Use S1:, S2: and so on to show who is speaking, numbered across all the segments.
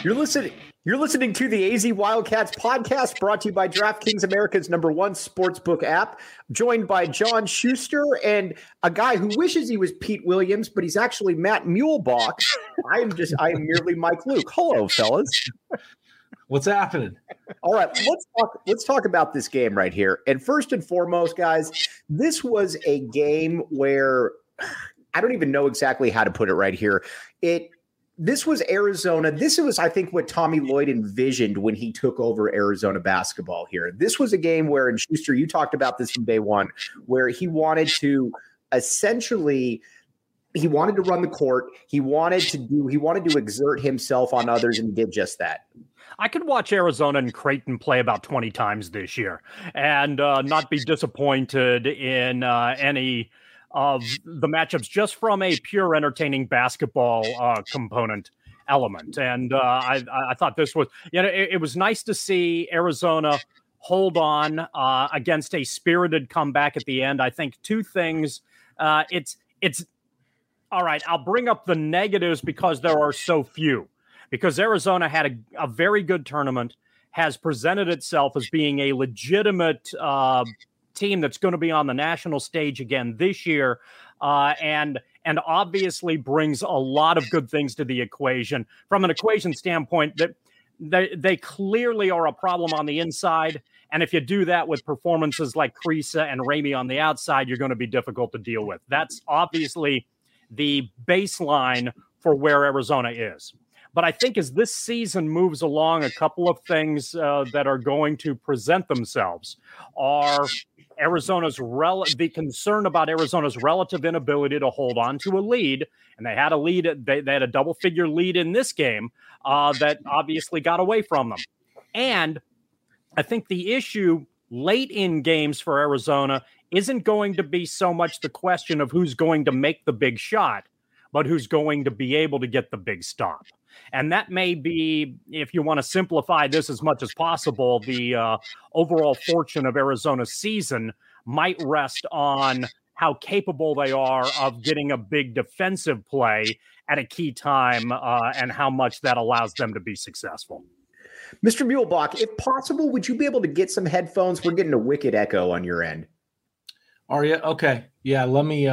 S1: You're listening to the AZ Wildcats podcast, brought to you by DraftKings, America's #1 sportsbook app. Joined by John Schuster and a guy who wishes he was Pete Williams, but he's actually Matt Muehlbach. I am merely Mike Luke. Hello, fellas.
S2: What's happening?
S1: All right, let's talk about this game right here. And first and foremost, guys, this was a game where I don't even know exactly how to put it right here. This was Arizona. This was, I think, what Tommy Lloyd envisioned when he took over Arizona basketball here. This was a game where, and Schuster, you talked about this from day one, where he wanted to essentially run the court. He wanted to exert himself on others, and he did just that.
S3: I could watch Arizona and Creighton play about 20 times this year and not be disappointed in any of the matchups just from a pure entertaining basketball component element. And I thought this was, it was nice to see Arizona hold on against a spirited comeback at the end. I think two things. It's all right. I'll bring up the negatives because there are so few. Because Arizona had a very good tournament, has presented itself as being a legitimate team that's going to be on the national stage again this year, and obviously brings a lot of good things to the equation. From an equation standpoint, that they clearly are a problem on the inside, and if you do that with performances like Kriisa and Ramey on the outside, you're going to be difficult to deal with. That's obviously the baseline for where Arizona is. But I think as this season moves along, a couple of things that are going to present themselves are the concern about Arizona's relative inability to hold on to a lead. And they had a lead. They had a double-figure lead in this game that obviously got away from them. And I think the issue late in games for Arizona isn't going to be so much the question of who's going to make the big shot, but who's going to be able to get the big stop. And that may be, if you want to simplify this as much as possible, the overall fortune of Arizona's season might rest on how capable they are of getting a big defensive play at a key time and how much that allows them to be successful.
S1: Mr. Muehlbach, if possible, would you be able to get some headphones? We're getting a wicked echo on your end.
S2: Are you? Okay. Yeah, let me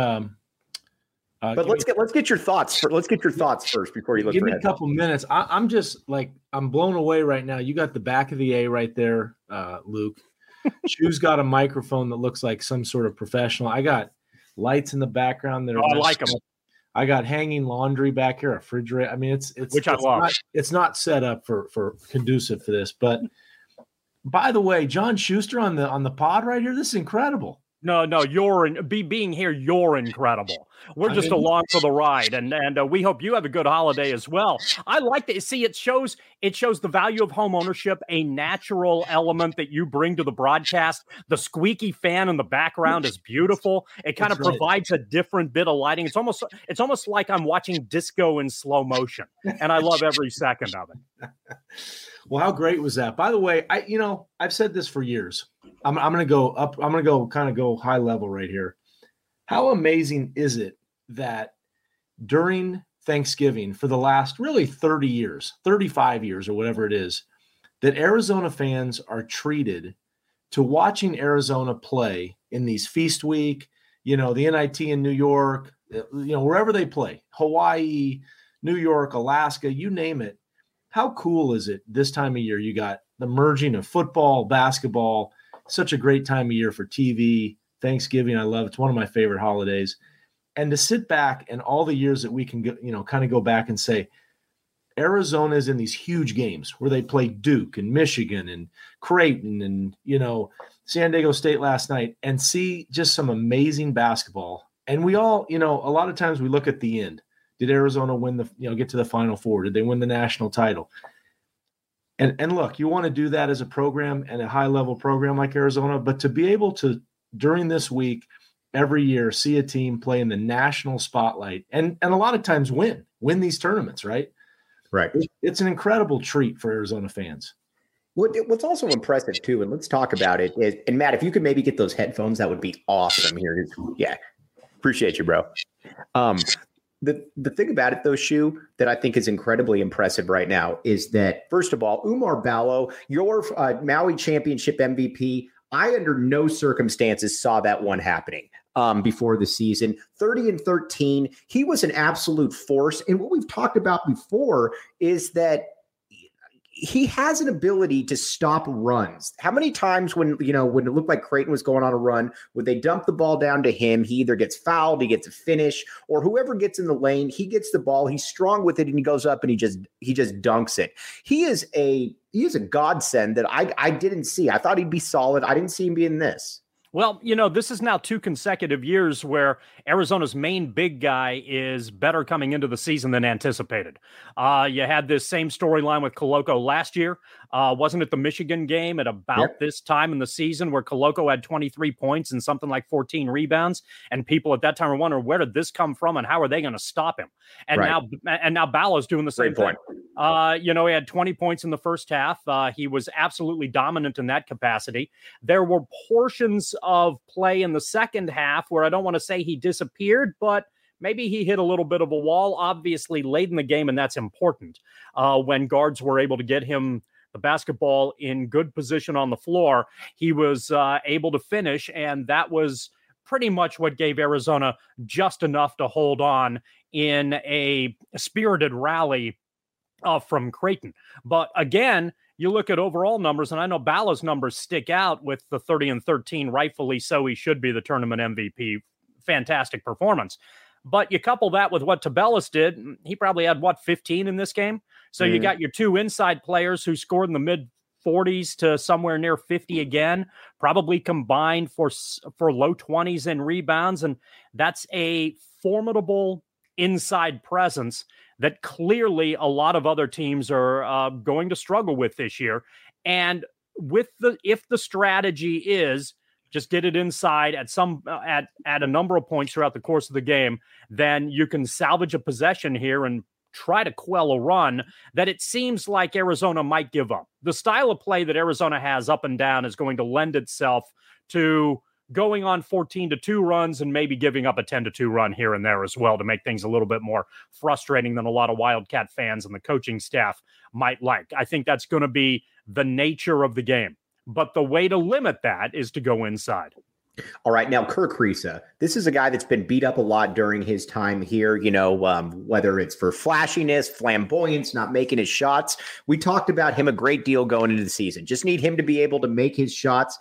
S1: but let's get your thoughts. Let's get your thoughts first before you look.
S2: Give me a couple minutes. I'm just I'm blown away right now. You got the back of the A right there, Luke. Chu's got a microphone that looks like some sort of professional. I got lights in the background that are.
S3: I like them.
S2: I got hanging laundry back here, a refrigerator. I mean, it's
S3: which I love.
S2: It's not set up for conducive for this. But by the way, John Schuster on the pod right here. This is incredible.
S3: No, being here, you're incredible. We're just along for the ride, and we hope you have a good holiday as well. I like to see it shows the value of home ownership, a natural element that you bring to the broadcast. The squeaky fan in the background is beautiful. It kind of provides a different bit of lighting. It's almost like I'm watching disco in slow motion, and I love every second of it.
S2: Well, how great was that? By the way, I've said this for years. I'm going to go up. I'm going to go high level right here. How amazing is it that during Thanksgiving for the last really 30 years, 35 years or whatever it is, that Arizona fans are treated to watching Arizona play in these feast week, the NIT in New York, wherever they play, Hawaii, New York, Alaska, you name it. How cool is it this time of year? You got the merging of football, basketball, such a great time of year for TV. Thanksgiving, I love. It's one of my favorite holidays. And to sit back and all the years that we can kind of go back and say, Arizona is in these huge games where they play Duke and Michigan and Creighton and, San Diego State last night and see just some amazing basketball. And we all, a lot of times we look at the end. Did Arizona win get to the Final Four? Did they win the national title? And look, you want to do that as a program and a high-level program like Arizona, but to be able to, during this week, every year, see a team play in the national spotlight and a lot of times win these tournaments, right?
S1: Right.
S2: It's an incredible treat for Arizona fans.
S1: What's also impressive, too, and let's talk about it, is, and Matt, if you could maybe get those headphones, that would be awesome here. Yeah. Appreciate you, bro. The thing about it, though, Shu, that I think is incredibly impressive right now is that, first of all, Oumar Ballo, your Maui Championship MVP, I under no circumstances saw that one happening before the season. 30-13, he was an absolute force. And what we've talked about before is that he has an ability to stop runs. How many times when it looked like Creighton was going on a run, would they dump the ball down to him? He either gets fouled, he gets a finish, or whoever gets in the lane, he gets the ball, he's strong with it, and he goes up and he just dunks it. He is a godsend that I didn't see. I thought he'd be solid. I didn't see him being this.
S3: Well, this is now 2 consecutive years where Arizona's main big guy is better coming into the season than anticipated. You had this same storyline with Koloko last year. Wasn't it the Michigan game at about this time in the season where Koloko had 23 points and something like 14 rebounds? And people at that time were wondering, where did this come from and how are they going to stop him? And now Ballo's doing the same thing. He had 20 points in the first half. He was absolutely dominant in that capacity. There were portions of play in the second half where I don't want to say he disappeared, but maybe he hit a little bit of a wall, obviously late in the game, and that's important when guards were able to get him the basketball in good position on the floor. He was able to finish, and that was pretty much what gave Arizona just enough to hold on in a spirited rally from Creighton. But again, you look at overall numbers, and I know Ballo's numbers stick out with the 30-13, rightfully so. He should be the tournament MVP. Fantastic performance. But you couple that with what Tubelis did, he probably had, 15 in this game? So you got your 2 inside players who scored in the mid-40s to somewhere near 50 again, probably combined for low 20s in rebounds, and that's a formidable inside presence that clearly a lot of other teams are going to struggle with this year. And if the strategy is just get it inside at a number of points throughout the course of the game, then you can salvage a possession here and try to quell a run that it seems like Arizona might give up. The style of play that Arizona has up and down is going to lend itself to going on 14-2 runs and maybe giving up a 10-2 run here and there as well to make things a little bit more frustrating than a lot of Wildcat fans and the coaching staff might like. I think that's going to be the nature of the game. But the way to limit that is to go inside.
S1: All right. Now, Kerr Kriisa, this is a guy that's been beat up a lot during his time here, whether it's for flashiness, flamboyance, not making his shots. We talked about him a great deal going into the season. Just need him to be able to make his shots.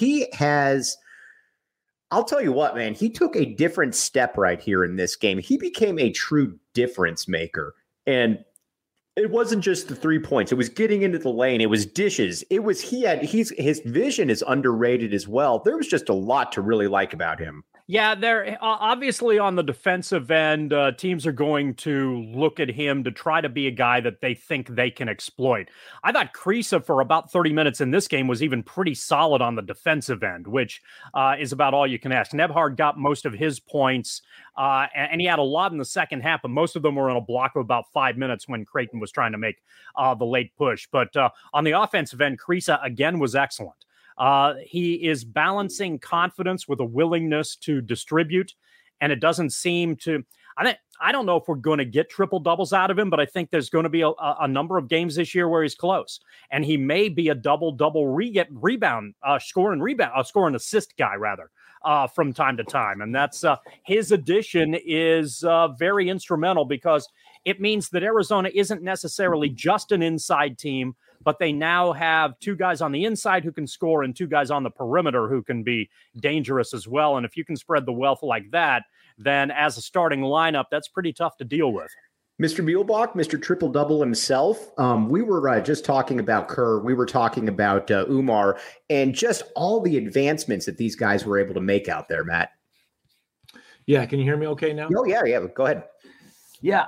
S1: I'll tell you what, man, he took a different step right here in this game. He became a true difference maker. And it wasn't just the 3 points. It was getting into the lane. It was dishes. His vision is underrated as well. There was just a lot to really like about him.
S3: Yeah, they're obviously on the defensive end. Teams are going to look at him to try to be a guy that they think they can exploit. I thought Kriisa for about 30 minutes in this game was even pretty solid on the defensive end, which is about all you can ask. Nembhard got most of his points, and he had a lot in the second half, but most of them were in a block of about 5 minutes when Creighton was trying to make the late push. But on the offensive end, Kriisa again was excellent. He is balancing confidence with a willingness to distribute, and it doesn't seem to. I don't know if we're going to get triple doubles out of him, but I think there's going to be a number of games this year where he's close, and he may be a double score and assist guy rather from time to time, and that's his addition is very instrumental because it means that Arizona isn't necessarily just an inside team, but they now have 2 guys on the inside who can score and 2 guys on the perimeter who can be dangerous as well. And if you can spread the wealth like that, then as a starting lineup, that's pretty tough to deal with.
S1: Mr. Muehlbach, Mr. Triple-Double himself, we were just talking about Kerr. We were talking about Oumar and just all the advancements that these guys were able to make out there, Matt.
S2: Yeah, can you hear me okay now?
S1: Oh, yeah, go ahead.
S2: Yeah,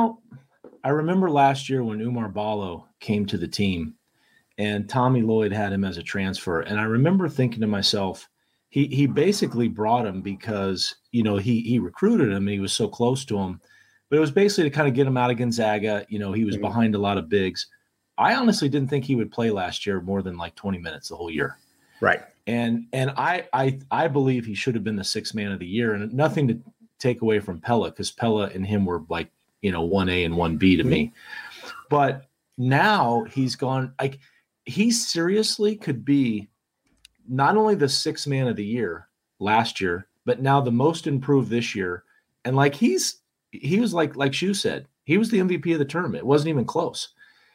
S2: I remember last year when Oumar Ballo came to the team and Tommy Lloyd had him as a transfer. And I remember thinking to myself, he basically brought him because, he recruited him and he was so close to him. But it was basically to kind of get him out of Gonzaga. He was behind a lot of bigs. I honestly didn't think he would play last year more than like 20 minutes the whole year.
S1: Right.
S2: And I believe he should have been the 6th man of the year. And nothing take away from Pella, because Pella and him were like, 1A and 1B to me. But now he's gone, like, he seriously could be not only the sixth man of the year last year, but now the most improved this year. And like, he was like Shu said, he was the MVP of the tournament. It wasn't even close.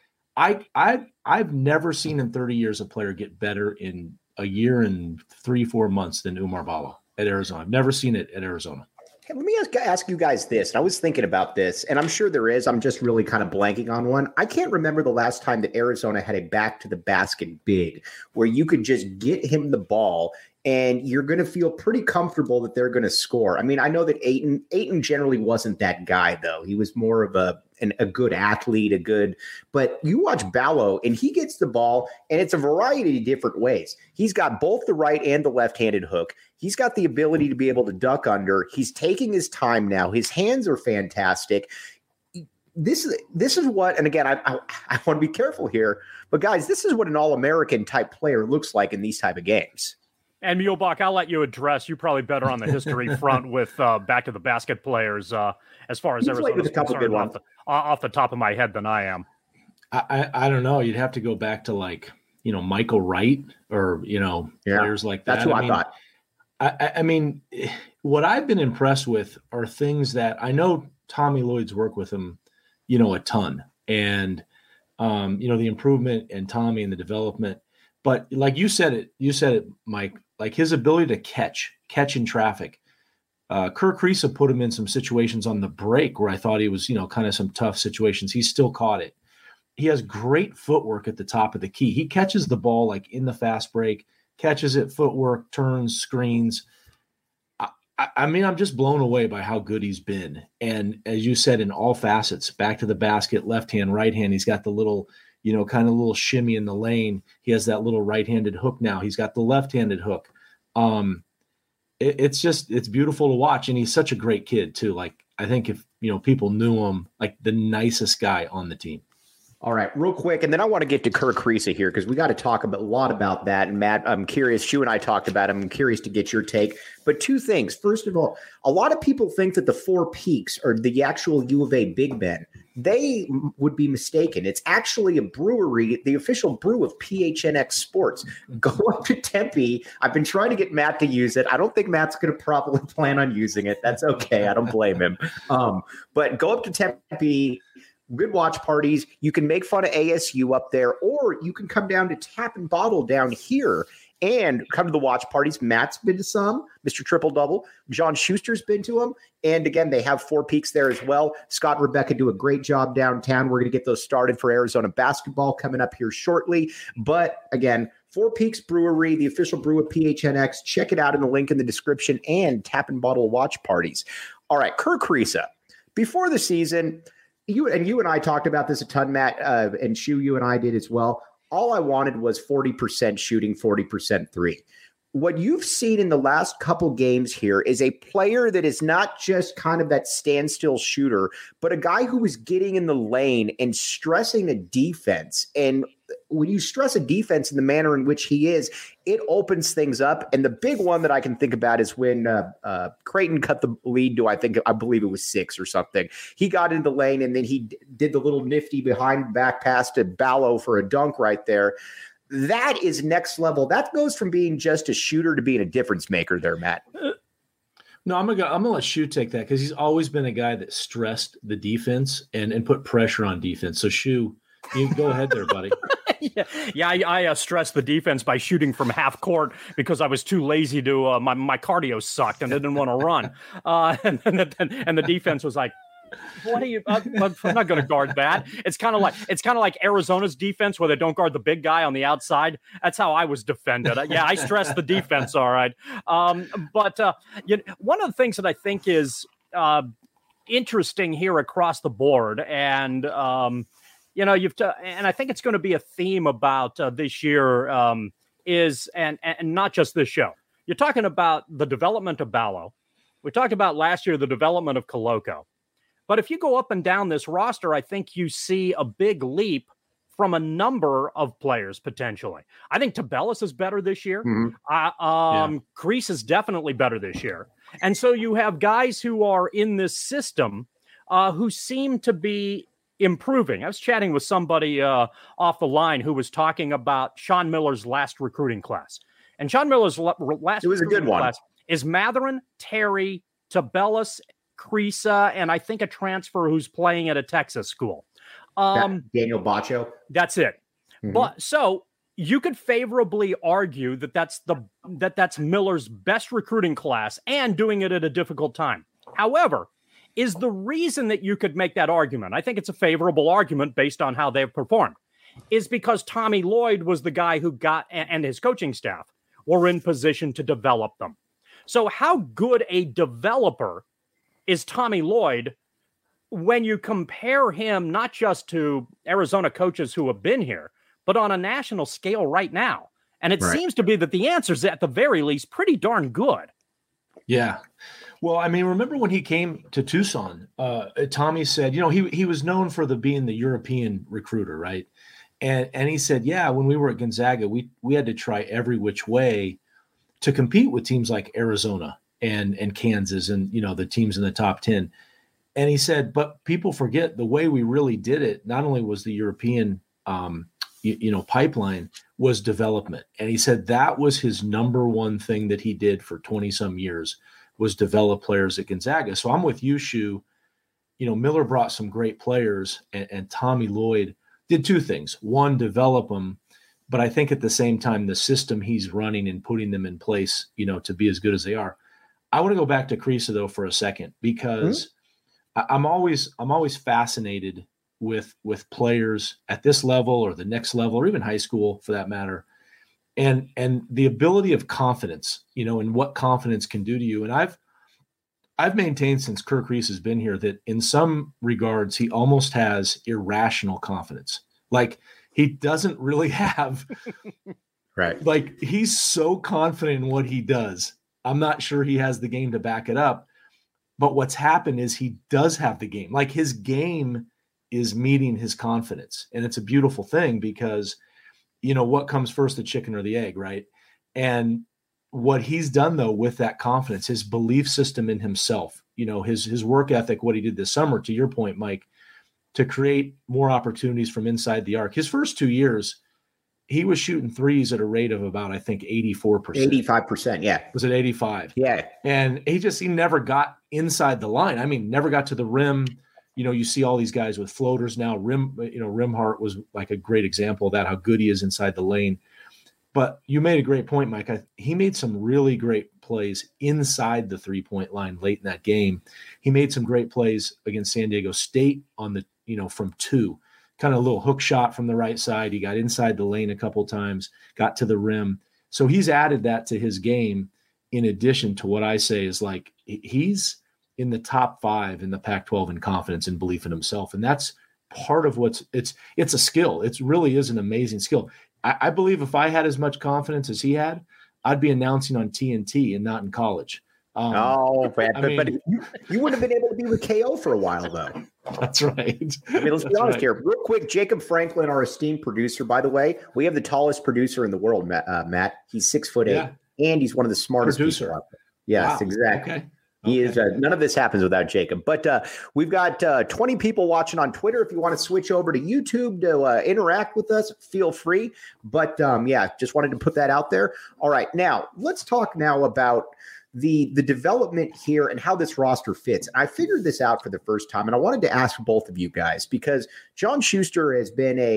S2: I've never seen in 30 years a player get better in a year and 3-4 months than Oumar Ballo at Arizona. I've never seen it at Arizona.
S1: Hey, let me ask you guys this. And I was thinking about this, and I'm sure there is. I'm just really kind of blanking on one. I can't remember the last time that Arizona had a back-to-the-basket big where you could just get him the ball and you're going to feel pretty comfortable that they're going to score. I mean, I know that Ayton generally wasn't that guy, though. He was more of a good athlete, but you watch Ballo and he gets the ball and it's a variety of different ways. He's got both the right and the left-handed hook. He's got the ability to be able to duck under. He's taking his time now. His hands are fantastic. This is what, and again, I want to be careful here, but guys, this is what an All-American type player looks like in these type of games.
S3: And Muehlbach, I'll let you address. You're probably better on the history front with back to the basket players as far as Arizona's concerned off the top of my head than I am.
S2: I don't know. You'd have to go back to like, Michael Wright or, players like that.
S1: That's who I thought.
S2: I mean, what I've been impressed with are things that I know Tommy Lloyd's worked with him, a ton. And, the improvement in Tommy and the development. But like you said it, Mike, like his ability to catch in traffic. Kerr Kriisa put him in some situations on the break where I thought he was, kind of some tough situations. He still caught it. He has great footwork at the top of the key. He catches the ball like in the fast break, catches it, footwork, turns, screens. I mean, I'm just blown away by how good he's been. And as you said, in all facets, back to the basket, left hand, right hand, he's got the little, kind of little shimmy in the lane. He has that little right-handed hook now. He's got the left-handed hook. It's beautiful to watch. And he's such a great kid too. Like, I think if, people knew him, like the nicest guy on the team.
S1: All right, real quick, and then I want to get to Kerr Kriisa here because we got to talk a lot about that. And Matt, I'm curious. Shu and I talked about it. I'm curious to get your take. But two things. First of all, a lot of people think that the Four Peaks are the actual U of A Big Ben. They would be mistaken. It's actually a brewery, the official brew of PHNX Sports. Go up to Tempe. I've been trying to get Matt to use it. I don't think Matt's going to probably plan on using it. That's okay. I don't blame him. But go up to Tempe. Good watch parties. You can make fun of ASU up there, or you can come down to Tap and Bottle down here and come to the watch parties. Matt's been to some, Mr. Triple Double. John Schuster's been to them. And again, they have Four Peaks there as well. Scott and Rebecca do a great job downtown. We're going to get those started for Arizona basketball coming up here shortly. But again, Four Peaks Brewery, the official brew of PHNX. Check it out in the link in the description, and Tap and Bottle watch parties. All right, Kerr Kriisa. Before the season, you and I talked about this a ton, Matt, and Shu, you and I did as well. All I wanted was 40% shooting, 40% three. What you've seen in the last couple games here is a player that is not just kind of that standstill shooter, but a guy who is getting in the lane and stressing the defense. And when you stress a defense in the manner in which he is, it opens things up. And the big one that I can think about is when Creighton cut the lead to, I believe it was 6 or something. He got into the lane and then he did the little nifty behind back pass to Ballo for a dunk right there. That is next level. That goes from being just a shooter to being a difference maker there, Matt.
S2: No, I'm gonna let Shu take that because he's always been a guy that stressed the defense and put pressure on defense. So Shu, you go ahead there, buddy.
S3: I stressed the defense by shooting from half court because I was too lazy to. My cardio sucked and I didn't want to run. And the defense was like, "What are you? I'm not going to guard that." It's kind of like Arizona's defense where they don't guard the big guy on the outside. That's how I was defended. I stressed the defense, all right. But one of the things that I think is interesting here across the board, and and I think it's going to be a theme about this year is and not just this show. You're talking about the development of Ballo. We talked about last year the development of Koloko. But if you go up and down this roster, I think you see a big leap from a number of players potentially. I think Tabellis is better this year. Kreis is definitely better this year. And so you have guys who are in this system who seem to be improving. I was chatting with somebody off the line who was talking about Sean Miller's last recruiting class. And Sean Miller's last
S1: it was a good one.
S3: Class is Matherin, Terry, Tabellis, Kreis, and I think a transfer who's playing at a Texas school.
S1: Daniel Baccio.
S3: That's it. But so you could favorably argue that that's Miller's best recruiting class and doing it at a difficult time. However, is the reason that you could make that argument, I think it's a favorable argument based on how they've performed, is because Tommy Lloyd was the guy who got, and his coaching staff were in position to develop them. So how good a developer is Tommy Lloyd when you compare him not just to Arizona coaches who have been here, but on a national scale right now? And it seems to be that the answer is at the very least pretty darn good.
S2: Yeah. Well, I mean, remember when he came to Tucson, Tommy said, he was known for being the European recruiter, right? And he said, yeah, when we were at Gonzaga, we had to try every which way to compete with teams like Arizona and Kansas and, the teams in the top 10. And he said, but people forget the way we really did it. Not only was the European, pipeline was development. And he said that was his number one thing that he did for 20 some years was develop players at Gonzaga. So I'm with you, Shu. Miller brought some great players and Tommy Lloyd did two things. One, develop them. But I think at the same time, the system he's running and putting them in place, to be as good as they are. I want to go back to Kreis though for a second, because I'm always fascinated with players at this level or the next level, or even high school for that matter. And the ability of confidence, and what confidence can do to you. And I've maintained since Kerr Kreis has been here that in some regards, he almost has irrational confidence. Like he doesn't really have,
S1: right.
S2: Like he's so confident in what he does. I'm not sure he has the game to back it up, but what's happened is he does have the game. Like his game is meeting his confidence. And it's a beautiful thing because, what comes first, the chicken or the egg, right? And what he's done though, with that confidence, his belief system in himself, his work ethic, what he did this summer, to your point, Mike, to create more opportunities from inside the arc. His first 2 years, he was shooting threes at a rate of about, I think, 84%.
S1: 85%, yeah.
S2: Was it 85?
S1: Yeah.
S2: And he never got inside the line. I mean, never got to the rim. You see all these guys with floaters now. Rimhart was like a great example of that, how good he is inside the lane. But you made a great point, Mike. He made some really great plays inside the three-point line late in that game. He made some great plays against San Diego State on the, from two. Kind of a little hook shot from the right side. He got inside the lane a couple times, got to the rim. So he's added that to his game in addition to what I say is like he's in the top 5 in the Pac-12 in confidence and belief in himself. And that's part of it's a skill. It really is an amazing skill. I believe if I had as much confidence as he had, I'd be announcing on TNT and not in college.
S1: But you wouldn't have been able to be with KO for a while, though.
S2: That's right.
S1: I mean, let's be honest here. Real quick, Jacob Franklin, our esteemed producer, by the way, we have the tallest producer in the world, Matt. He's 6'8", and he's one of the smartest people out there. Yes, wow. Exactly. Okay. He is. None of this happens without Jacob. But we've got 20 people watching on Twitter. If you want to switch over to YouTube to interact with us, feel free. But just wanted to put that out there. All right, now let's talk now about the development here and how this roster fits. I figured this out for the first time, and I wanted to ask both of you guys because John Schuster he's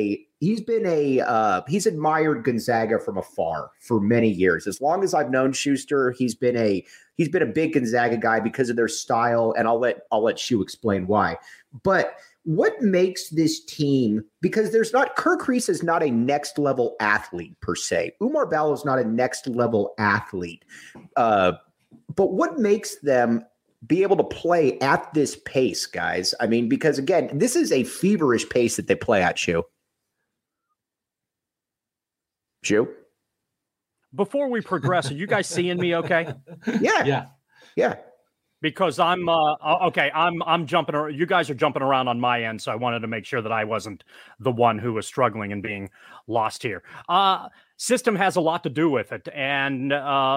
S1: admired Gonzaga from afar for many years. As long as I've known Schuster, he's been a big Gonzaga guy because of their style, and I'll let Shu explain why. But what makes this team, because Kerr Kreis is not a next level athlete per se. Oumar Ballo is not a next level athlete. But what makes them be able to play at this pace, guys? I mean, because again, this is a feverish pace that they play at, Shu.
S3: Before we progress, are you guys seeing me okay?
S1: Yeah.
S3: because I'm okay. I'm jumping. You guys are jumping around on my end, so I wanted to make sure that I wasn't the one who was struggling and being lost here. System has a lot to do with it, and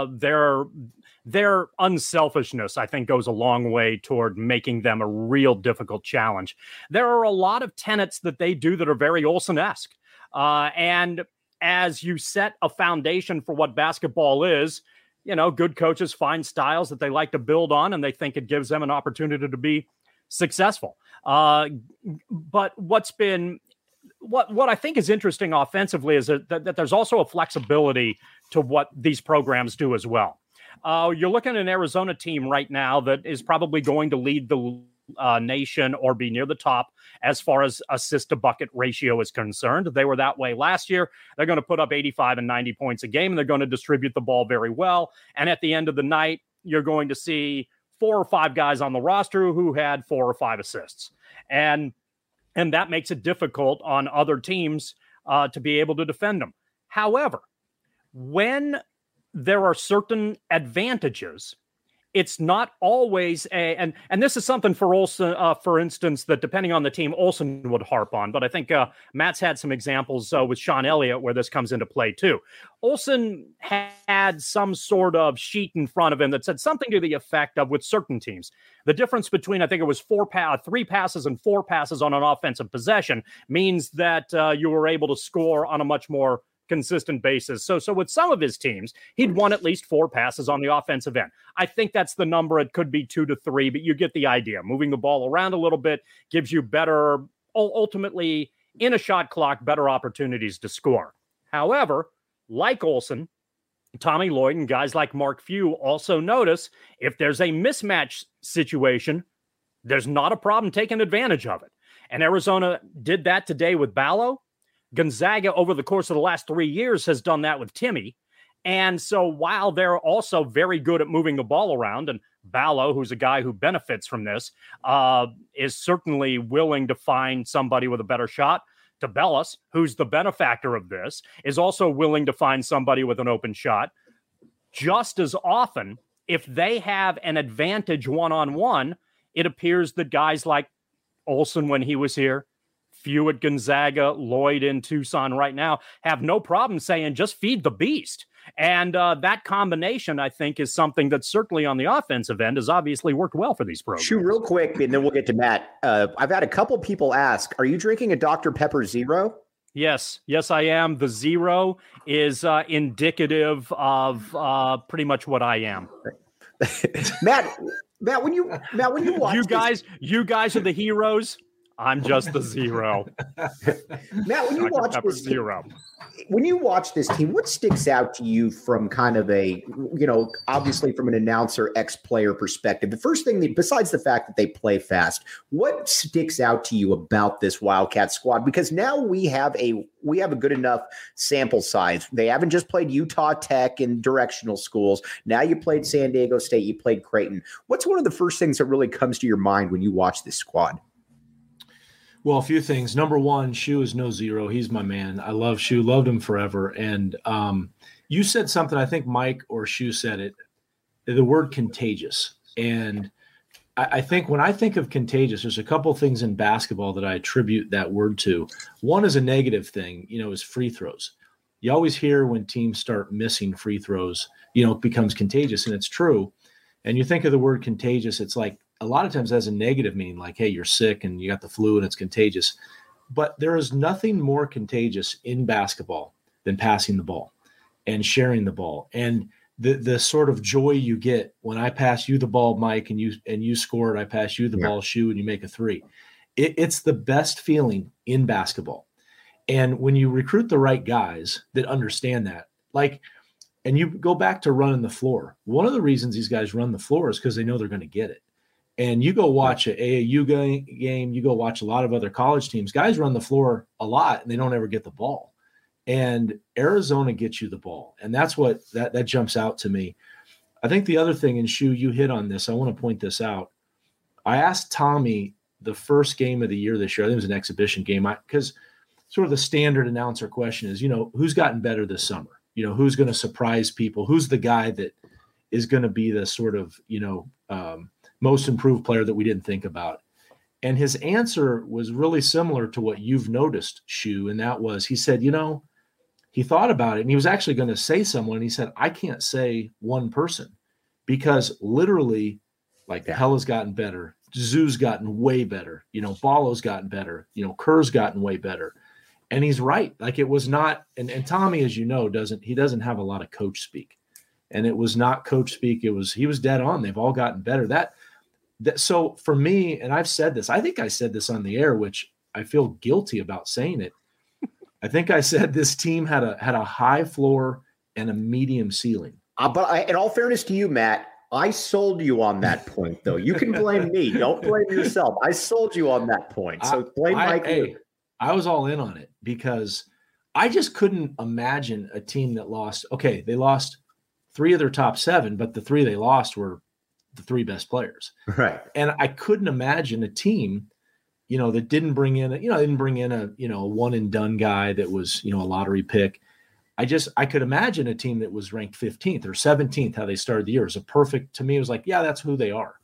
S3: their unselfishness, I think, goes a long way toward making them a real difficult challenge. There are a lot of tenets that they do that are very Olsen-esque, and as you set a foundation for what basketball is, good coaches find styles that they like to build on, and they think it gives them an opportunity to be successful. But what I think is interesting offensively is that there's also a flexibility to what these programs do as well. You're looking at an Arizona team right now that is probably going to lead the nation or be near the top as far as assist to bucket ratio is concerned. They were that way last year. They're going to put up 85 and 90 points a game, and they're going to distribute the ball very well. And at the end of the night, you're going to see 4 or 5 guys on the roster who had 4 or 5 assists. And that makes it difficult on other teams to be able to defend them. However, when there are certain advantages, it's not always and this is something for Olsen, for instance, that depending on the team, Olsen would harp on. But I think Matt's had some examples with Sean Elliott where this comes into play too. Olsen had some sort of sheet in front of him that said something to the effect of, with certain teams, the difference between, I think it was 3 passes and 4 passes on an offensive possession means that you were able to score on a much more consistent basis. So with some of his teams, he'd won at least 4 passes on the offensive end. I think that's the number. It could be 2 to 3, but you get the idea. Moving the ball around a little bit gives you better, ultimately in a shot clock, better opportunities to score. However, like Olsen, Tommy Lloyd and guys like Mark Few also notice if there's a mismatch situation, there's not a problem taking advantage of it. And Arizona did that today with Ballo. Gonzaga, over the course of the last 3 years, has done that with Timmy. And so while they're also very good at moving the ball around, and Ballo, who's a guy who benefits from this, is certainly willing to find somebody with a better shot. Tabellas, who's the benefactor of this, is also willing to find somebody with an open shot. Just as often, if they have an advantage one-on-one, it appears that guys like Olsen when he was here, Few at Gonzaga, Lloyd in Tucson right now, have no problem saying just feed the beast. And that combination, I think, is something that certainly on the offensive end has obviously worked well for these programs.
S1: Shoot, real quick, and then we'll get to Matt. I've had a couple people ask, are you drinking a Dr. Pepper Zero?
S3: Yes, I am. The zero is indicative of pretty much what I am.
S1: Matt, when you watch
S3: you guys are the heroes. I'm just the zero.
S1: Matt, when you watch this team, what sticks out to you from kind of a, obviously from an announcer, ex-player perspective? The first thing, besides the fact that they play fast, what sticks out to you about this Wildcat squad? Because now we have a good enough sample size. They haven't just played Utah Tech in directional schools. Now you played San Diego State, you played Creighton. What's one of the first things that really comes to your mind when you watch this squad?
S2: Well, a few things. Number one, Shu is no zero. He's my man. I love Shu, loved him forever. And you said something, I think Mike or Shu said it, the word contagious. And I think when I think of contagious, there's a couple things in basketball that I attribute that word to. One is a negative thing, is free throws. You always hear when teams start missing free throws, it becomes contagious, and it's true. And you think of the word contagious, it's like, a lot of times has a negative meaning, like, hey, you're sick and you got the flu and it's contagious. But there is nothing more contagious in basketball than passing the ball and sharing the ball. And the sort of joy you get when I pass you the ball, Mike, and you score it, I pass you the ball, Shu, and you make a three. It's the best feeling in basketball. And when you recruit the right guys that understand that, and you go back to running the floor, one of the reasons these guys run the floor is because they know they're going to get it. And you go watch an AAU game, you go watch a lot of other college teams, guys run the floor a lot and they don't ever get the ball. And Arizona gets you the ball. And that's what that jumps out to me. I think the other thing, and Shu, you hit on this, I want to point this out. I asked Tommy the first game of the year this year, I think it was an exhibition game, because sort of the standard announcer question is, who's gotten better this summer? Who's going to surprise people? Who's the guy that is going to be the sort of, most improved player that we didn't think about. And his answer was really similar to what you've noticed, Shu. And that was, he said, he thought about it and he was actually going to say someone. And he said, I can't say one person because literally Pella's gotten better. Zoo's gotten way better. Ballo's gotten better. Kerr's gotten way better. And he's right. It was not, and Tommy, as you know, doesn't have a lot of coach speak. And it was not coach speak. He was dead on. They've all gotten better. So for me, and I've said this, I think I said this on the air, which I feel guilty about saying it. I think I said this team had a high floor and a medium ceiling.
S1: But in all fairness to you, Matt, I sold you on that point, though. You can blame me. Don't blame yourself. I sold you on that point. So blame Mike.
S2: I was all in on it because I just couldn't imagine a team that lost. Okay, they lost 3 of their top 7, but the 3 they lost were the 3 best players.
S1: Right.
S2: And I couldn't imagine a team, that didn't bring in a one and done guy that was, a lottery pick. I could imagine a team that was ranked 15th or 17th, how they started the year. It was to me, it was like, yeah, that's who they are.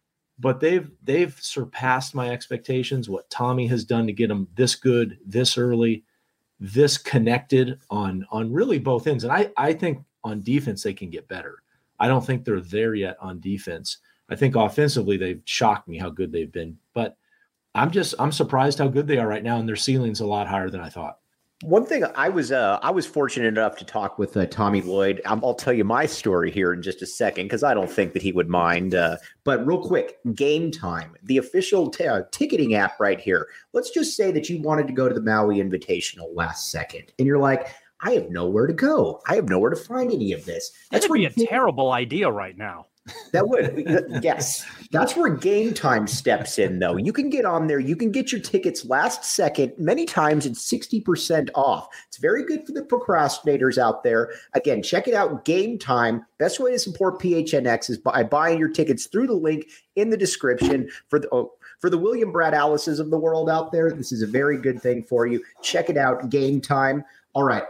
S2: But they've surpassed my expectations. What Tommy has done to get them this good, this early, this connected on really both ends. And I think on defense, they can get better. I don't think they're there yet on defense. I think offensively, they've shocked me how good they've been. But I'm surprised how good they are right now, and their ceiling's a lot higher than I thought.
S1: One thing I was fortunate enough to talk with Tommy Lloyd. I'll tell you my story here in just a second because I don't think that he would mind. But real quick, Game Time, the official ticketing app right here. Let's just say that you wanted to go to the Maui Invitational last second, and you're like, I have nowhere to go. I have nowhere to find any of this.
S3: That's be a terrible idea right now.
S1: That would, yes. That's where Game Time steps in, though. You can get on there. You can get your tickets last second. Many times it's 60% off. It's very good for the procrastinators out there. Again, check it out. Game Time. Best way to support PHNX is by buying your tickets through the link in the description. For the William Brad Alice's of the world out there, this is a very good thing for you. Check it out. Game Time. All right.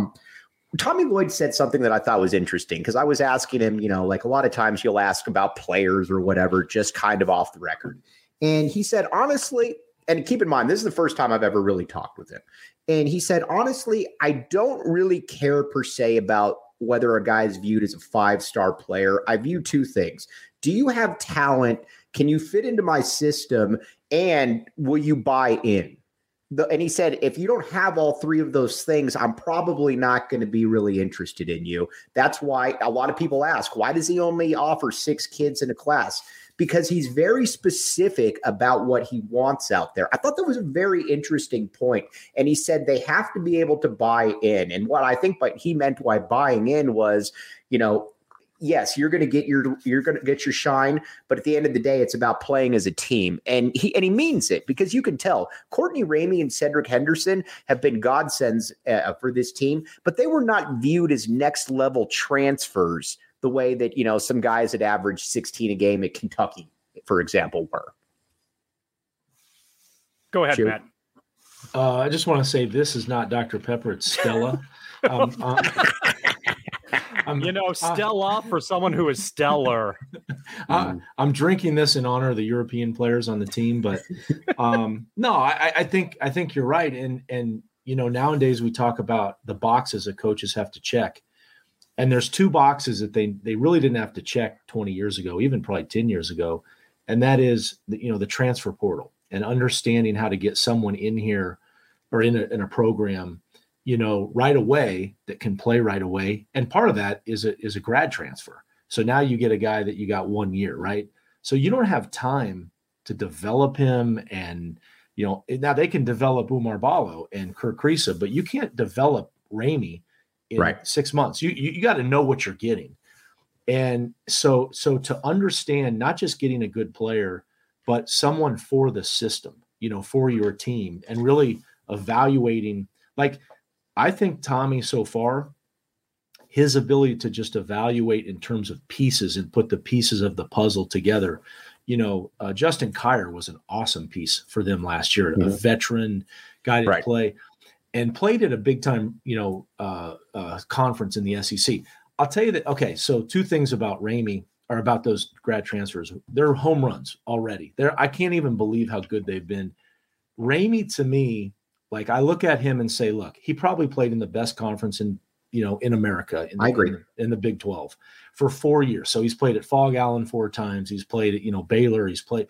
S1: Tommy Lloyd said something that I thought was interesting because I was asking him, a lot of times you'll ask about players or whatever, just kind of off the record. And he said, honestly, and keep in mind, this is the first time I've ever really talked with him. And he said, honestly, I don't really care per se about whether a guy is viewed as a 5-star player. I view 2 things. Do you have talent? Can you fit into my system? And will you buy in? And he said, if you don't have all 3 of those things, I'm probably not going to be really interested in you. That's why a lot of people ask, why does he only offer 6 kids in a class? Because he's very specific about what he wants out there. I thought that was a very interesting point. And he said they have to be able to buy in. And what I think he meant by buying in was, yes, you're going to get your shine, but at the end of the day, it's about playing as a team. And he means it because you can tell Courtney Ramey and Cedric Henderson have been godsends for this team, but they were not viewed as next level transfers the way that, some guys that averaged 16 a game at Kentucky, for example, were.
S3: Go ahead, Matt.
S2: I just want to say this is not Dr. Pepper. It's Stella.
S3: Stella for someone who is stellar.
S2: I'm drinking this in honor of the European players on the team, but no, I think you're right. And nowadays we talk about the boxes that coaches have to check, and there's 2 boxes that they really didn't have to check 20 years ago, even probably 10 years ago, and that is the transfer portal and understanding how to get someone in here or in a program right away that can play right away. And part of that is a grad transfer. So now you get a guy that you got 1 year, right? So you don't have time to develop him. And, now they can develop Umar Ballo and Kirk Kriisa, but you can't develop Ramey in 6 months. You got to know what you're getting. And so to understand not just getting a good player, but someone for the system, for your team, and really evaluating, I think Tommy so far, his ability to just evaluate in terms of pieces and put the pieces of the puzzle together. Justin Kier was an awesome piece for them last year, a veteran guy to play and played at a big time, conference in the SEC. I'll tell you that. Okay. So 2 things about Ramey. or about those grad transfers. They're home runs already. I can't even believe how good they've been. Ramey, to me, like I look at him and say, look, he probably played in the best conference in America.
S1: I agree.
S2: In the Big 12 for 4 years. So he's played at Fog Allen 4 times. He's played at, Baylor.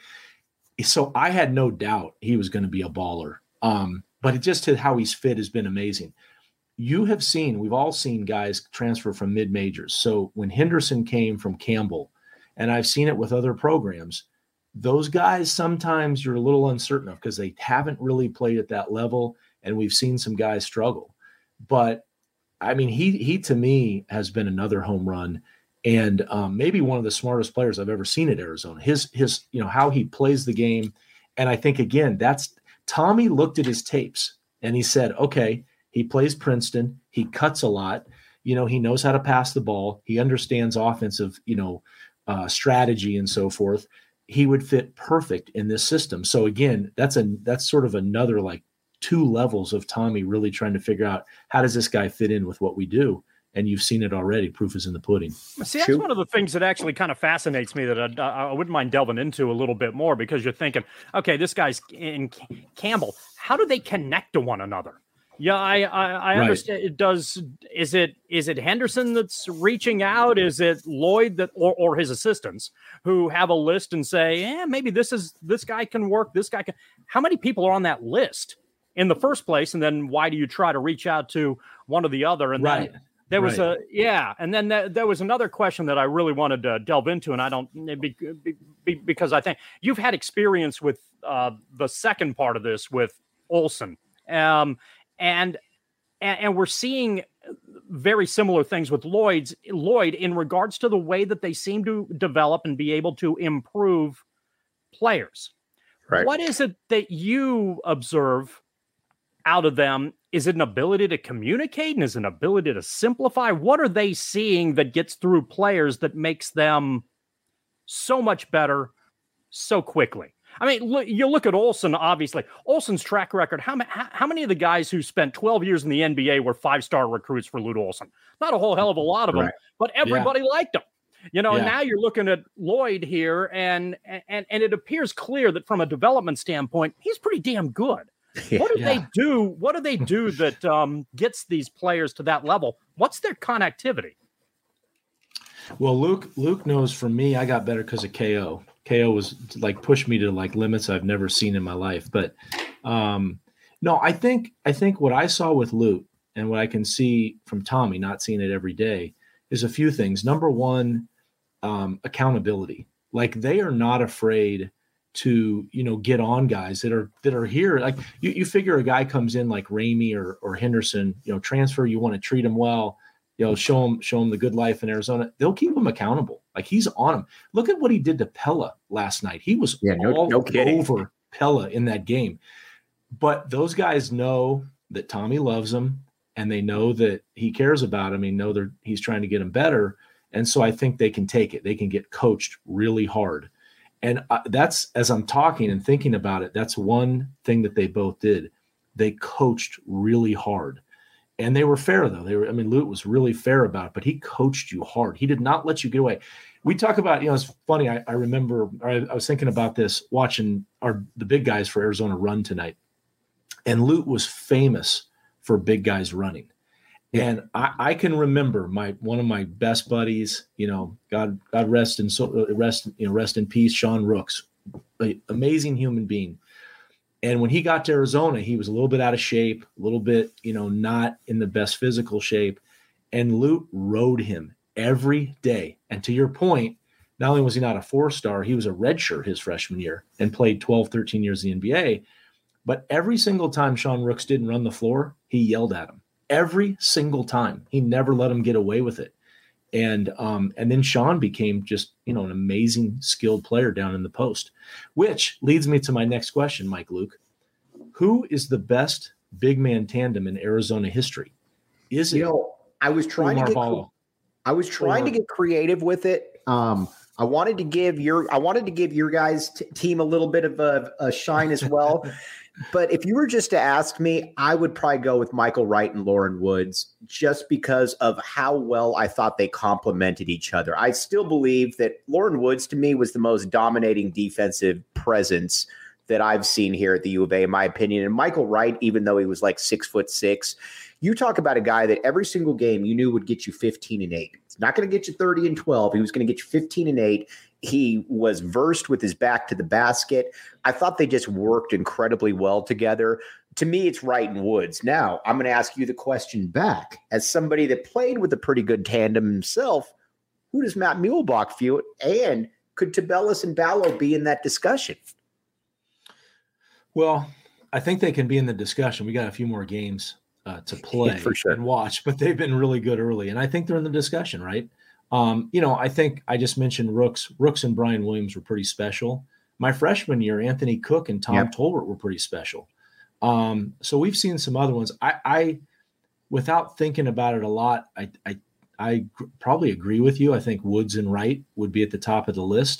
S2: So I had no doubt he was going to be a baller. But it just how he's fit has been amazing. We've all seen guys transfer from mid-majors. So when Henderson came from Campbell, and I've seen it with other programs, those guys sometimes you're a little uncertain of because they haven't really played at that level, and we've seen some guys struggle. But I mean, he to me has been another home run, and maybe one of the smartest players I've ever seen at Arizona. His how he plays the game, and I think again that's Tommy looked at his tapes and he said, okay, he plays Princeton, he cuts a lot, he knows how to pass the ball, he understands offensive, strategy and so forth. He would fit perfect in this system. So again, that's sort of another like 2 levels of Tommy really trying to figure out how does this guy fit in with what we do. And you've seen it already. Proof is in the pudding.
S3: See, that's one of the things that actually kind of fascinates me that I wouldn't mind delving into a little bit more, because you're thinking, okay, this guy's in Campbell. How do they connect to one another? Yeah, I understand. It does. Is it Henderson that's reaching out? Is it Lloyd that or his assistants who have a list and say, maybe this guy can work. This guy can. How many people are on that list in the first place? And then why do you try to reach out to one or the other? And then there was and then there was another question that I really wanted to delve into, and I don't because I think you've had experience with the second part of this with Olson, and we're seeing very similar things with Lloyd in regards to the way that they seem to develop and be able to improve players. Right. What is it that you observe out of them? Is it an ability to communicate, and is it an ability to simplify? What are they seeing that gets through players that makes them so much better so quickly? I mean, you look at Olson, obviously. Olson's track record, how many of the guys who spent 12 years in the NBA were 5-star recruits for Lute Olson? Not a whole hell of a lot of them, but everybody liked him. And now you're looking at Lloyd here, and it appears clear that from a development standpoint, he's pretty damn good. What do they do? What do they do that gets these players to that level? What's their connectivity?
S2: Well, Luke knows from me, I got better because of KO. KO was like pushed me to like limits I've never seen in my life. But no, I think what I saw with Luke and what I can see from Tommy, not seeing it every day, is a few things. Number one, accountability. Like they are not afraid to get on guys that are here. Like you figure a guy comes in like Ramey or Henderson, transfer. You want to treat him well, show him the good life in Arizona. They'll keep him accountable. Like he's on him. Look at what he did to Pella last night. He was all over Pella in that game. But those guys know that Tommy loves him, and they know that he cares about him. They know he's trying to get him better. And so I think they can take it. They can get coached really hard. And that's, as I'm talking and thinking about it, that's one thing that they both did. They coached really hard. And they were fair, though. Lute was really fair about it, but he coached you hard. He did not let you get away. We talk about, it's funny. I remember, I was thinking about this watching the big guys for Arizona run tonight. And Lute was famous for big guys running. And I can remember one of my best buddies, God rest in peace, Sean Rooks, an amazing human being. And when he got to Arizona, he was a little bit out of shape, a little bit, not in the best physical shape. And Lute rode him every day. And to your point, not only was he not a 4-star, he was a redshirt his freshman year and played 12, 13 years in the NBA. But every single time Sean Rooks didn't run the floor, he yelled at him. Every single time. He never let him get away with it. And then Sean became just, an amazing skilled player down in the post, which leads me to my next question, Mike Luke. Who is the best big man tandem in Arizona history? Is it?
S1: I was trying to get creative with it. I wanted to give your guys' team a little bit of a shine as well. But if you were just to ask me, I would probably go with Michael Wright and Lauren Woods just because of how well I thought they complemented each other. I still believe that Lauren Woods, to me, was the most dominating defensive presence that I've seen here at the U of A, in my opinion. And Michael Wright, even though he was like 6'6", you talk about a guy that every single game you knew would get you 15 and 8. It's not going to get you 30 and 12. He was going to get you 15 and 8. He was versed with his back to the basket. I thought they just worked incredibly well together. To me, it's Wright and Woods. Now, I'm going to ask you the question back. As somebody that played with a pretty good tandem himself, who does Matt Muehlbach feel? And could Tubelis and Ballo be in that discussion?
S2: Well, I think they can be in the discussion. We got a few more games to play
S1: for sure.
S2: and watch, but they've been really good early. And I think they're in the discussion, right? I think I just mentioned Rooks. Rooks and Brian Williams were pretty special. My freshman year, Anthony Cook and Tom Tolbert were pretty special. So we've seen some other ones. I without thinking about it a lot, I probably agree with you. I think Woods and Wright would be at the top of the list.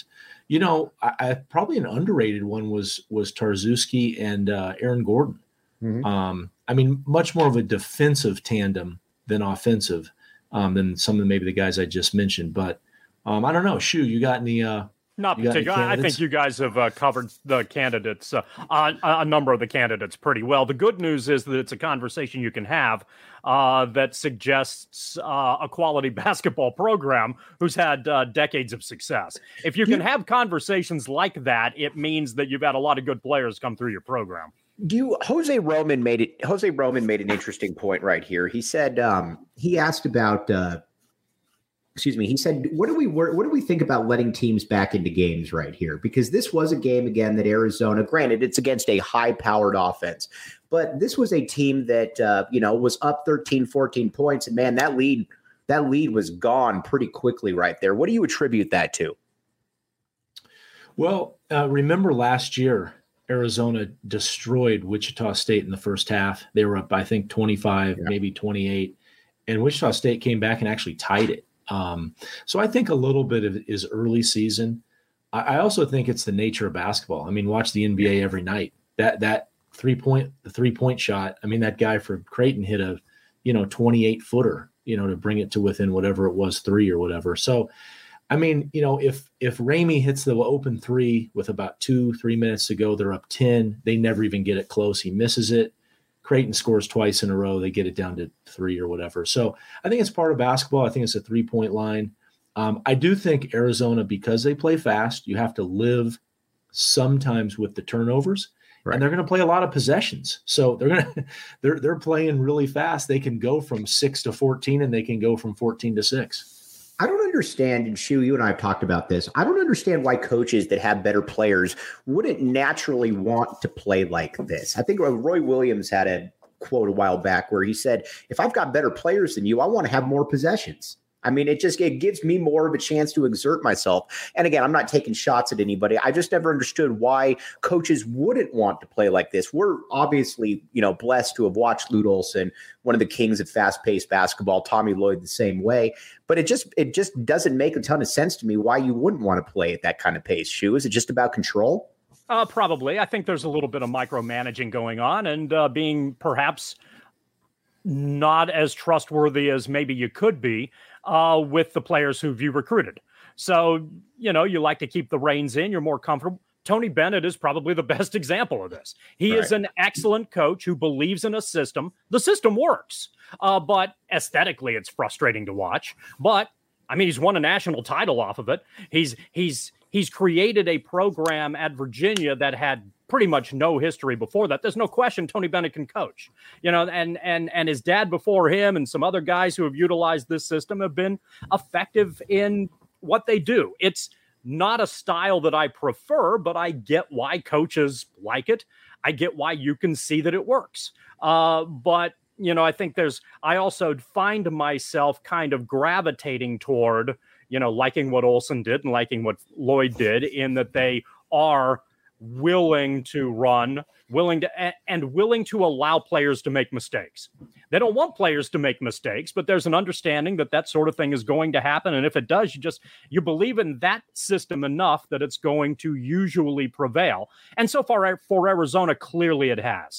S2: I probably an underrated one was Tarczewski and Aaron Gordon. Mm-hmm. Much more of a defensive tandem than offensive. Than some of maybe the guys I just mentioned. But I don't know. Shu, you got any
S3: not particularly. I think you guys have covered the candidates, a number of the candidates pretty well. The good news is that it's a conversation you can have that suggests a quality basketball program who's had decades of success. If you can have conversations like that, it means that you've had a lot of good players come through your program.
S1: Jose Roman made an interesting point right here. He said he asked about he said what do we think about letting teams back into games right here, because this was a game again that Arizona, granted it's against a high powered offense, but this was a team that was up 13-14 points, and man, that lead was gone pretty quickly right there. What do you attribute that to?
S2: Well, remember last year Arizona destroyed Wichita State in the first half. They were up, I think, 25, maybe 28, and Wichita State came back and actually tied it. So I think a little bit of it is early season. I also think it's the nature of basketball. Watch the NBA every night. That three-point shot. That guy for Creighton hit a 28-footer, to bring it to within whatever it was, 3 or whatever. So if Ramey hits the open three with about 2-3 minutes to go, they're up 10. They never even get it close. He misses it. Creighton scores twice in a row. They get it down to 3 or whatever. So I think it's part of basketball. I think it's a 3-point line. I do think Arizona, because they play fast, you have to live sometimes with the turnovers, and they're going to play a lot of possessions. So they're playing really fast. They can go from 6 to 14, and they can go from 14 to 6.
S1: I don't understand, and Shu, you and I have talked about this. I don't understand why coaches that have better players wouldn't naturally want to play like this. I think Roy Williams had a quote a while back where he said, if I've got better players than you, I want to have more possessions. It gives me more of a chance to exert myself. And again, I'm not taking shots at anybody. I just never understood why coaches wouldn't want to play like this. We're obviously, blessed to have watched Lute Olson, one of the kings of fast-paced basketball, Tommy Lloyd the same way. But it just doesn't make a ton of sense to me why you wouldn't want to play at that kind of pace. Shu, is it just about control?
S3: Probably. I think there's a little bit of micromanaging going on, and being perhaps not as trustworthy as maybe you could be with the players who you recruited. So, you like to keep the reins in. You're more comfortable. Tony Bennett is probably the best example of this. He is an excellent coach who believes in a system. The system works, but aesthetically it's frustrating to watch. But, he's won a national title off of it. He's created a program at Virginia that had pretty much no history before that. There's no question Tony Bennett can coach, and his dad before him and some other guys who have utilized this system have been effective in what they do. It's not a style that I prefer, but I get why coaches like it. I get why you can see that it works. But I think I also find myself kind of gravitating toward, liking what Olson did and liking what Lloyd did, in that they are willing to run, willing to allow players to make mistakes. They don't want players to make mistakes, but there's an understanding that that sort of thing is going to happen. And if it does, you believe in that system enough that it's going to usually prevail. And so far for Arizona, clearly it has.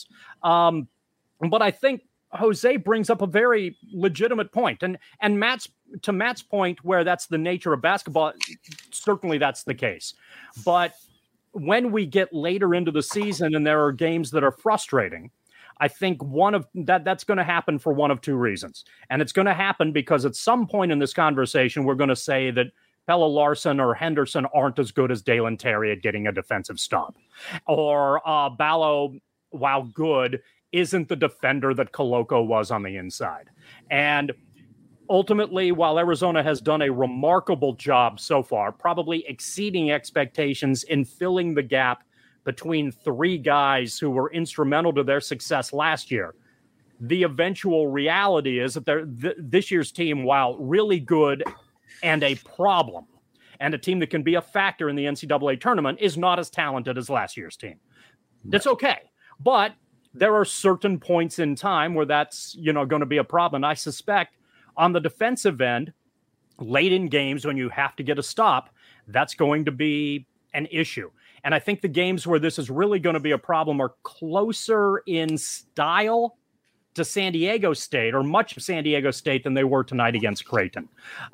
S3: But I think Jose brings up a very legitimate point. And to Matt's point, where that's the nature of basketball, certainly that's the case. But when we get later into the season and there are games that are frustrating, I think that's going to happen for one of two reasons. And it's going to happen because at some point in this conversation, we're going to say that Pelle Larsson or Henderson aren't as good as Dalen Terry at getting a defensive stop. Or Ballo, while good, isn't the defender that Koloko was on the inside. And ultimately, while Arizona has done a remarkable job so far, probably exceeding expectations in filling the gap between three guys who were instrumental to their success last year, the eventual reality is that this year's team, while really good and a problem, and a team that can be a factor in the NCAA tournament, is not as talented as last year's team. That's okay. But there are certain points in time where that's, going to be a problem. I suspect on the defensive end, late in games when you have to get a stop, that's going to be an issue. And I think the games where this is really going to be a problem are closer in style to San Diego State, or much of San Diego State, than they were tonight against Creighton.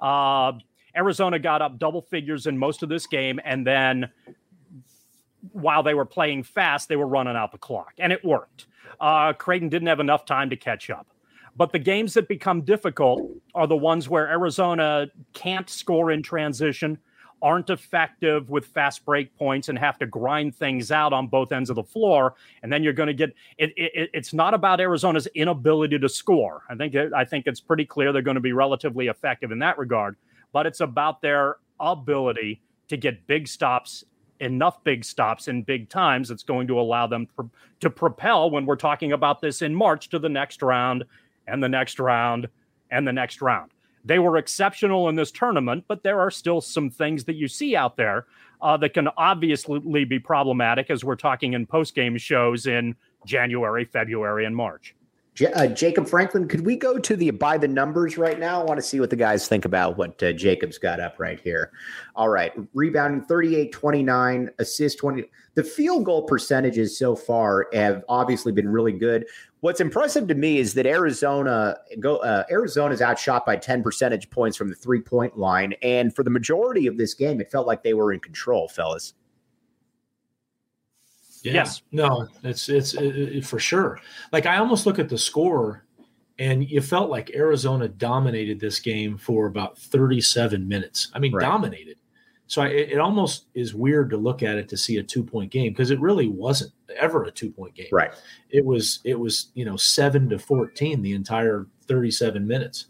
S3: Arizona got up double figures in most of this game, and then while they were playing fast, they were running out the clock, and it worked. Creighton didn't have enough time to catch up. But the games that become difficult are the ones where Arizona can't score in transition, aren't effective with fast break points, and have to grind things out on both ends of the floor. And then you're going to get it. It's not about Arizona's inability to score. I think it's pretty clear they're going to be relatively effective in that regard. But it's about their ability to get big stops, enough big stops in big times that's going to allow them to propel, when we're talking about this in March, to the next round and the next round and the next round. They were exceptional in this tournament, but there are still some things that you see out there that can obviously be problematic as we're talking in post-game shows in January, February, and March.
S1: Jacob Franklin, could we go to the by the numbers right now? I want to see what the guys think about what Jacob's got up right here. All right. Rebounding 38-29, assist 20. The field goal percentages so far have obviously been really good. What's impressive to me is that Arizona's outshot by 10 percentage points from the 3-point line. And for the majority of this game, it felt like they were in control, fellas.
S2: Yeah.
S3: Yes.
S2: No, it's for sure. Like, I almost look at the score, and you felt like Arizona dominated this game for about 37 minutes. I mean, right. Dominated. So it almost is weird to look at it to see a 2-point game, because it really wasn't ever a 2-point game.
S1: Right.
S2: It was 7-14 the entire 37 minutes.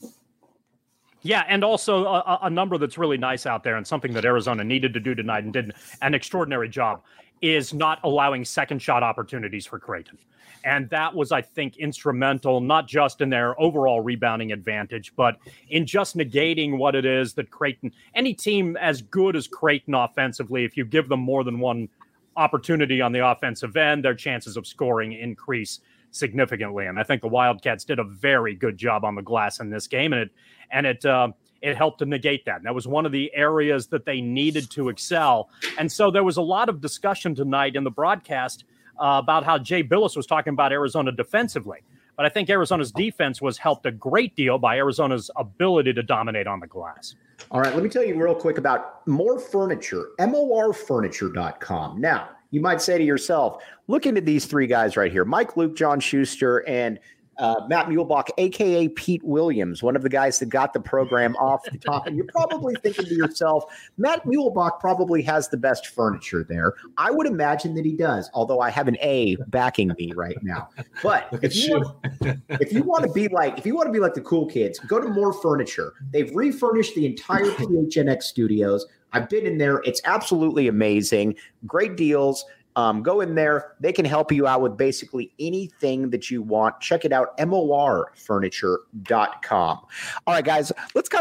S3: Yeah, and also a number that's really nice out there, and something that Arizona needed to do tonight and did an extraordinary job, is not allowing second shot opportunities for Creighton. And that was, I think, instrumental, not just in their overall rebounding advantage, but in just negating what it is that Creighton, any team as good as Creighton offensively, if you give them more than one opportunity on the offensive end, their chances of scoring increase significantly. And I think the Wildcats did a very good job on the glass in this game, and it helped to negate that. And that was one of the areas that they needed to excel. And so there was a lot of discussion tonight in the broadcast about how Jay Billis was talking about Arizona defensively. But I think Arizona's defense was helped a great deal by Arizona's ability to dominate on the glass.
S1: All right, let me tell you real quick about More Furniture, morfurniture.com. Now, you might say to yourself, looking at these three guys right here, Mike Luke, John Schuster, and Matt Muehlbach, a.k.a. Pete Williams, one of the guys that got the program off the top. And you're probably thinking to yourself, Matt Muehlbach probably has the best furniture there. I would imagine that he does, although I have an A backing me right now. But if you want to be like the cool kids, go to More Furniture. They've refurnished the entire PHNX studios. I've been in there. It's absolutely amazing. Great deals. Go in there. They can help you out with basically anything that you want. Check it out, morfurniture.com. All right, guys, let's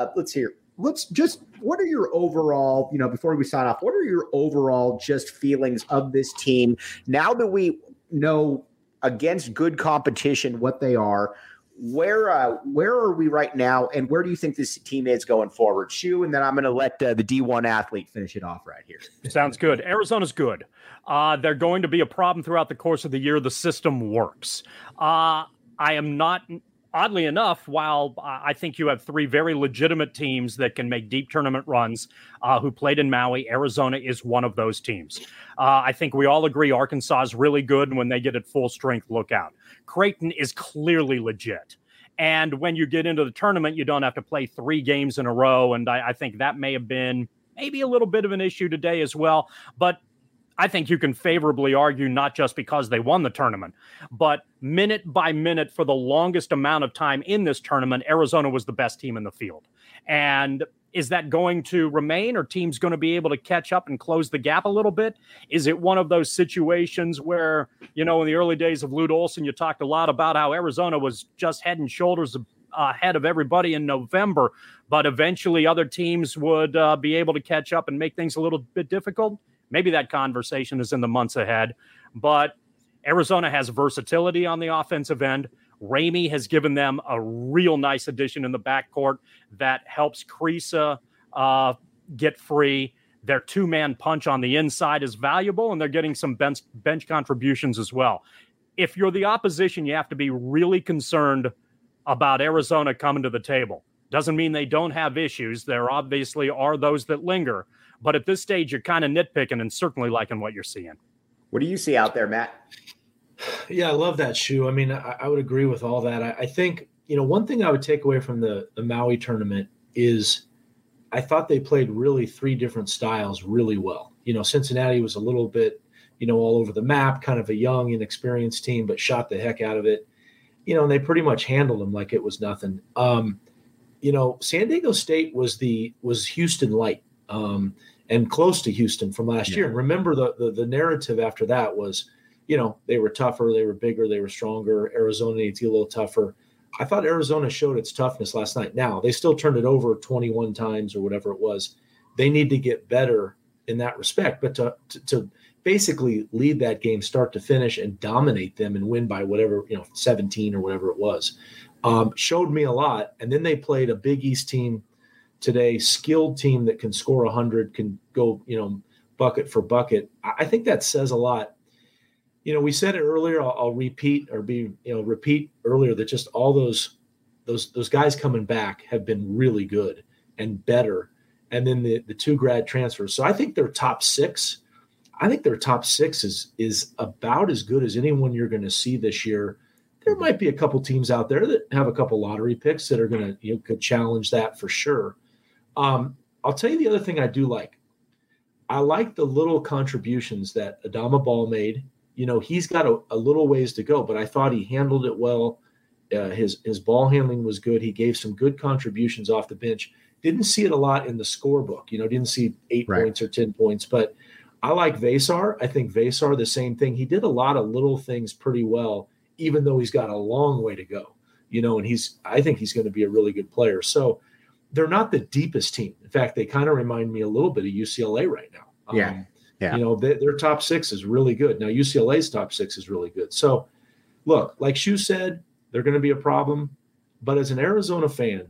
S1: what are your overall, before we sign off, what are your overall just feelings of this team now that we know against good competition, what they are. Where are we right now, and where do you think this team is going forward? Shu, and then I'm going to let the D1 athlete finish it off right here.
S3: Sounds good. Arizona's good. They're going to be a problem throughout the course of the year. The system works. I am not, oddly enough, while I think you have three very legitimate teams that can make deep tournament runs who played in Maui, Arizona is one of those teams. I think we all agree Arkansas is really good, and when they get at full strength, look out. Creighton is clearly legit. And when you get into the tournament, you don't have to play 3 games in a row. And I think that may have been maybe a little bit of an issue today as well. But I think you can favorably argue not just because they won the tournament, but minute by minute for the longest amount of time in this tournament, Arizona was the best team in the field. And is that going to remain? Are teams going to be able to catch up and close the gap a little bit? Is it one of those situations where, in the early days of Lute Olson, you talked a lot about how Arizona was just head and shoulders ahead of everybody in November, but eventually other teams would be able to catch up and make things a little bit difficult? Maybe that conversation is in the months ahead, but Arizona has versatility on the offensive end. Ramey has given them a real nice addition in the backcourt that helps Kriisa get free. Their 2-man punch on the inside is valuable, and they're getting some bench contributions as well. If you're the opposition, you have to be really concerned about Arizona coming to the table. Doesn't mean they don't have issues. There obviously are those that linger, but at this stage, you're kind of nitpicking and certainly liking what you're seeing.
S1: What do you see out there, Matt?
S2: Yeah, I love that, Shu. I mean, I would agree with all that. I think, one thing I would take away from the Maui tournament is I thought they played really 3 different styles really well. Cincinnati was a little bit, all over the map, kind of a young, inexperienced team, but shot the heck out of it. And they pretty much handled them like it was nothing. San Diego State was Houston light and close to Houston from last year. And remember, the narrative after that was, they were tougher, they were bigger, they were stronger. Arizona needs to get a little tougher. I thought Arizona showed its toughness last night. Now, they still turned it over 21 times or whatever it was. They need to get better in that respect. But to basically lead that game start to finish and dominate them and win by whatever, 17 or whatever it was, showed me a lot. And then they played a Big East team today, skilled team that can score 100, can go, bucket for bucket. I think that says a lot. We said it earlier. I'll repeat earlier that just all those guys coming back have been really good and better. And then the 2 grad transfers. So I think their top 6. I think their top 6 is about as good as anyone you're going to see this year. There might be a couple teams out there that have a couple lottery picks that are going to could challenge that for sure. I'll tell you the other thing I do like. I like the little contributions that Adama Ball made. He's got a little ways to go, but I thought he handled it well. His ball handling was good. He gave some good contributions off the bench. Didn't see it a lot in the scorebook. Didn't see 8 points or 10 points, but I like Vesar. I think Vesar, the same thing. He did a lot of little things pretty well, even though he's got a long way to go. And I think he's going to be a really good player. So they're not the deepest team. In fact, they kind of remind me a little bit of UCLA right now.
S1: Yeah.
S2: Their top 6 is really good. Now, UCLA's top 6 is really good. So, look, like Shu said, they're going to be a problem. But as an Arizona fan,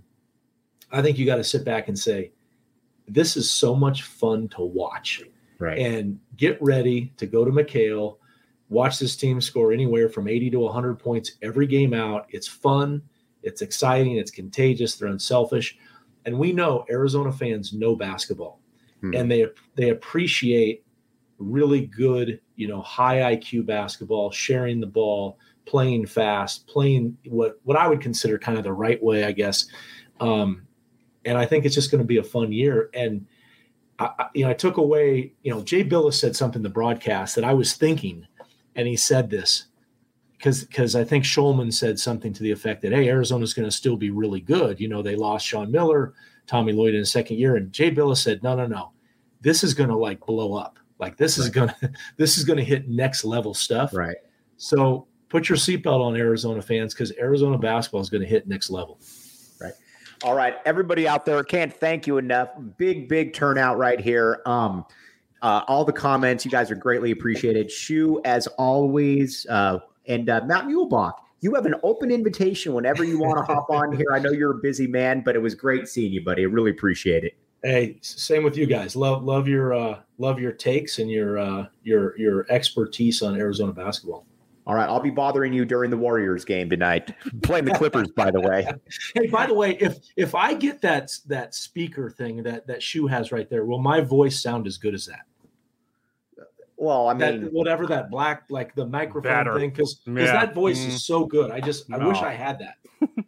S2: I think you got to sit back and say, this is so much fun to watch.
S1: Right.
S2: And get ready to go to McHale, watch this team score anywhere from 80 to 100 points every game out. It's fun. It's exciting. It's contagious. They're unselfish. And we know Arizona fans know basketball. And they appreciate really good, high IQ basketball, sharing the ball, playing fast, playing what I would consider kind of the right way, I guess. And I think it's just going to be a fun year. And I took away, Jay Billis said something in the broadcast that I was thinking, and he said this because I think Shulman said something to the effect that, hey, Arizona's going to still be really good. They lost Sean Miller, Tommy Lloyd in his second year. And Jay Billis said, no, this is going to blow up. This is going to hit next level stuff.
S1: Right.
S2: So put your seatbelt on, Arizona fans, because Arizona basketball is going to hit next level.
S1: Right. All right. Everybody out there, can't thank you enough. Big turnout right here. All the comments, you guys are greatly appreciated. Shu, as always, And Matt Muehlbach, you have an open invitation whenever you want to hop on here. I know you're a busy man, but it was great seeing you, buddy. I really appreciate it.
S2: Hey, same with you guys. Love your takes and your expertise on Arizona basketball.
S1: All right, I'll be bothering you during the Warriors game tonight. Playing the Clippers, by the way.
S2: Hey, by the way, if I get that speaker thing that Shu has right there, will my voice sound as good as that?
S1: Well, I mean,
S2: whatever that black, like the microphone thing, because that voice is so good. I wish I had that.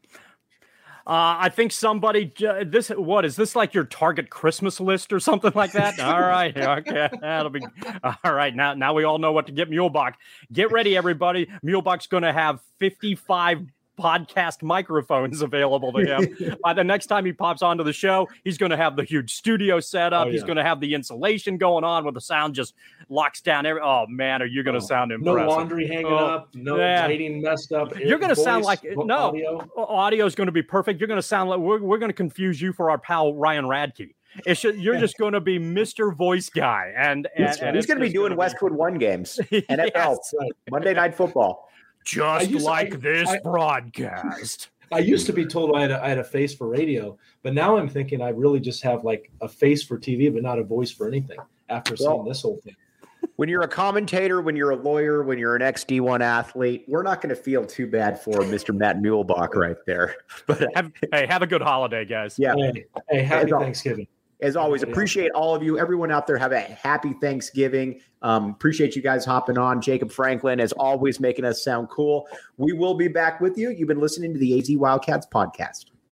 S3: I think somebody what is this, like your target Christmas list or something like that? All right. Okay. That'll be all right. Now we all know what to get Muehlbach. Get ready, everybody. Muehlbach's going to have 55 podcast microphones available to him. By the next time he pops onto the show, he's going to have the huge studio set up. He's going to have the insulation going on where the sound just locks down. Oh man, are you going to sound impressive?
S2: No laundry hanging up, no lighting messed up.
S3: You're going to sound like audio is going to be perfect. You're going to sound like we're going to confuse you for our pal Ryan Radke. You're just going to be Mr. Voice Guy, and
S1: he's going to be doing Westwood One games, NFL, Monday Night Football.
S3: Just like this broadcast.
S2: I used to be told I had a face for radio, but now I'm thinking I really just have like a face for TV, but not a voice for anything after seeing this whole thing.
S1: When you're a commentator, when you're a lawyer, when you're an ex-D1 athlete, we're not going to feel too bad for Mr. Matt Muehlbach right there. But
S3: have a good holiday, guys.
S1: Yeah.
S2: Hey, happy Thanksgiving.
S1: As always, appreciate all of you. Everyone out there, have a happy Thanksgiving. Appreciate you guys hopping on. Jacob Franklin, as always, making us sound cool. We will be back with you. You've been listening to the AZ Wildcats podcast.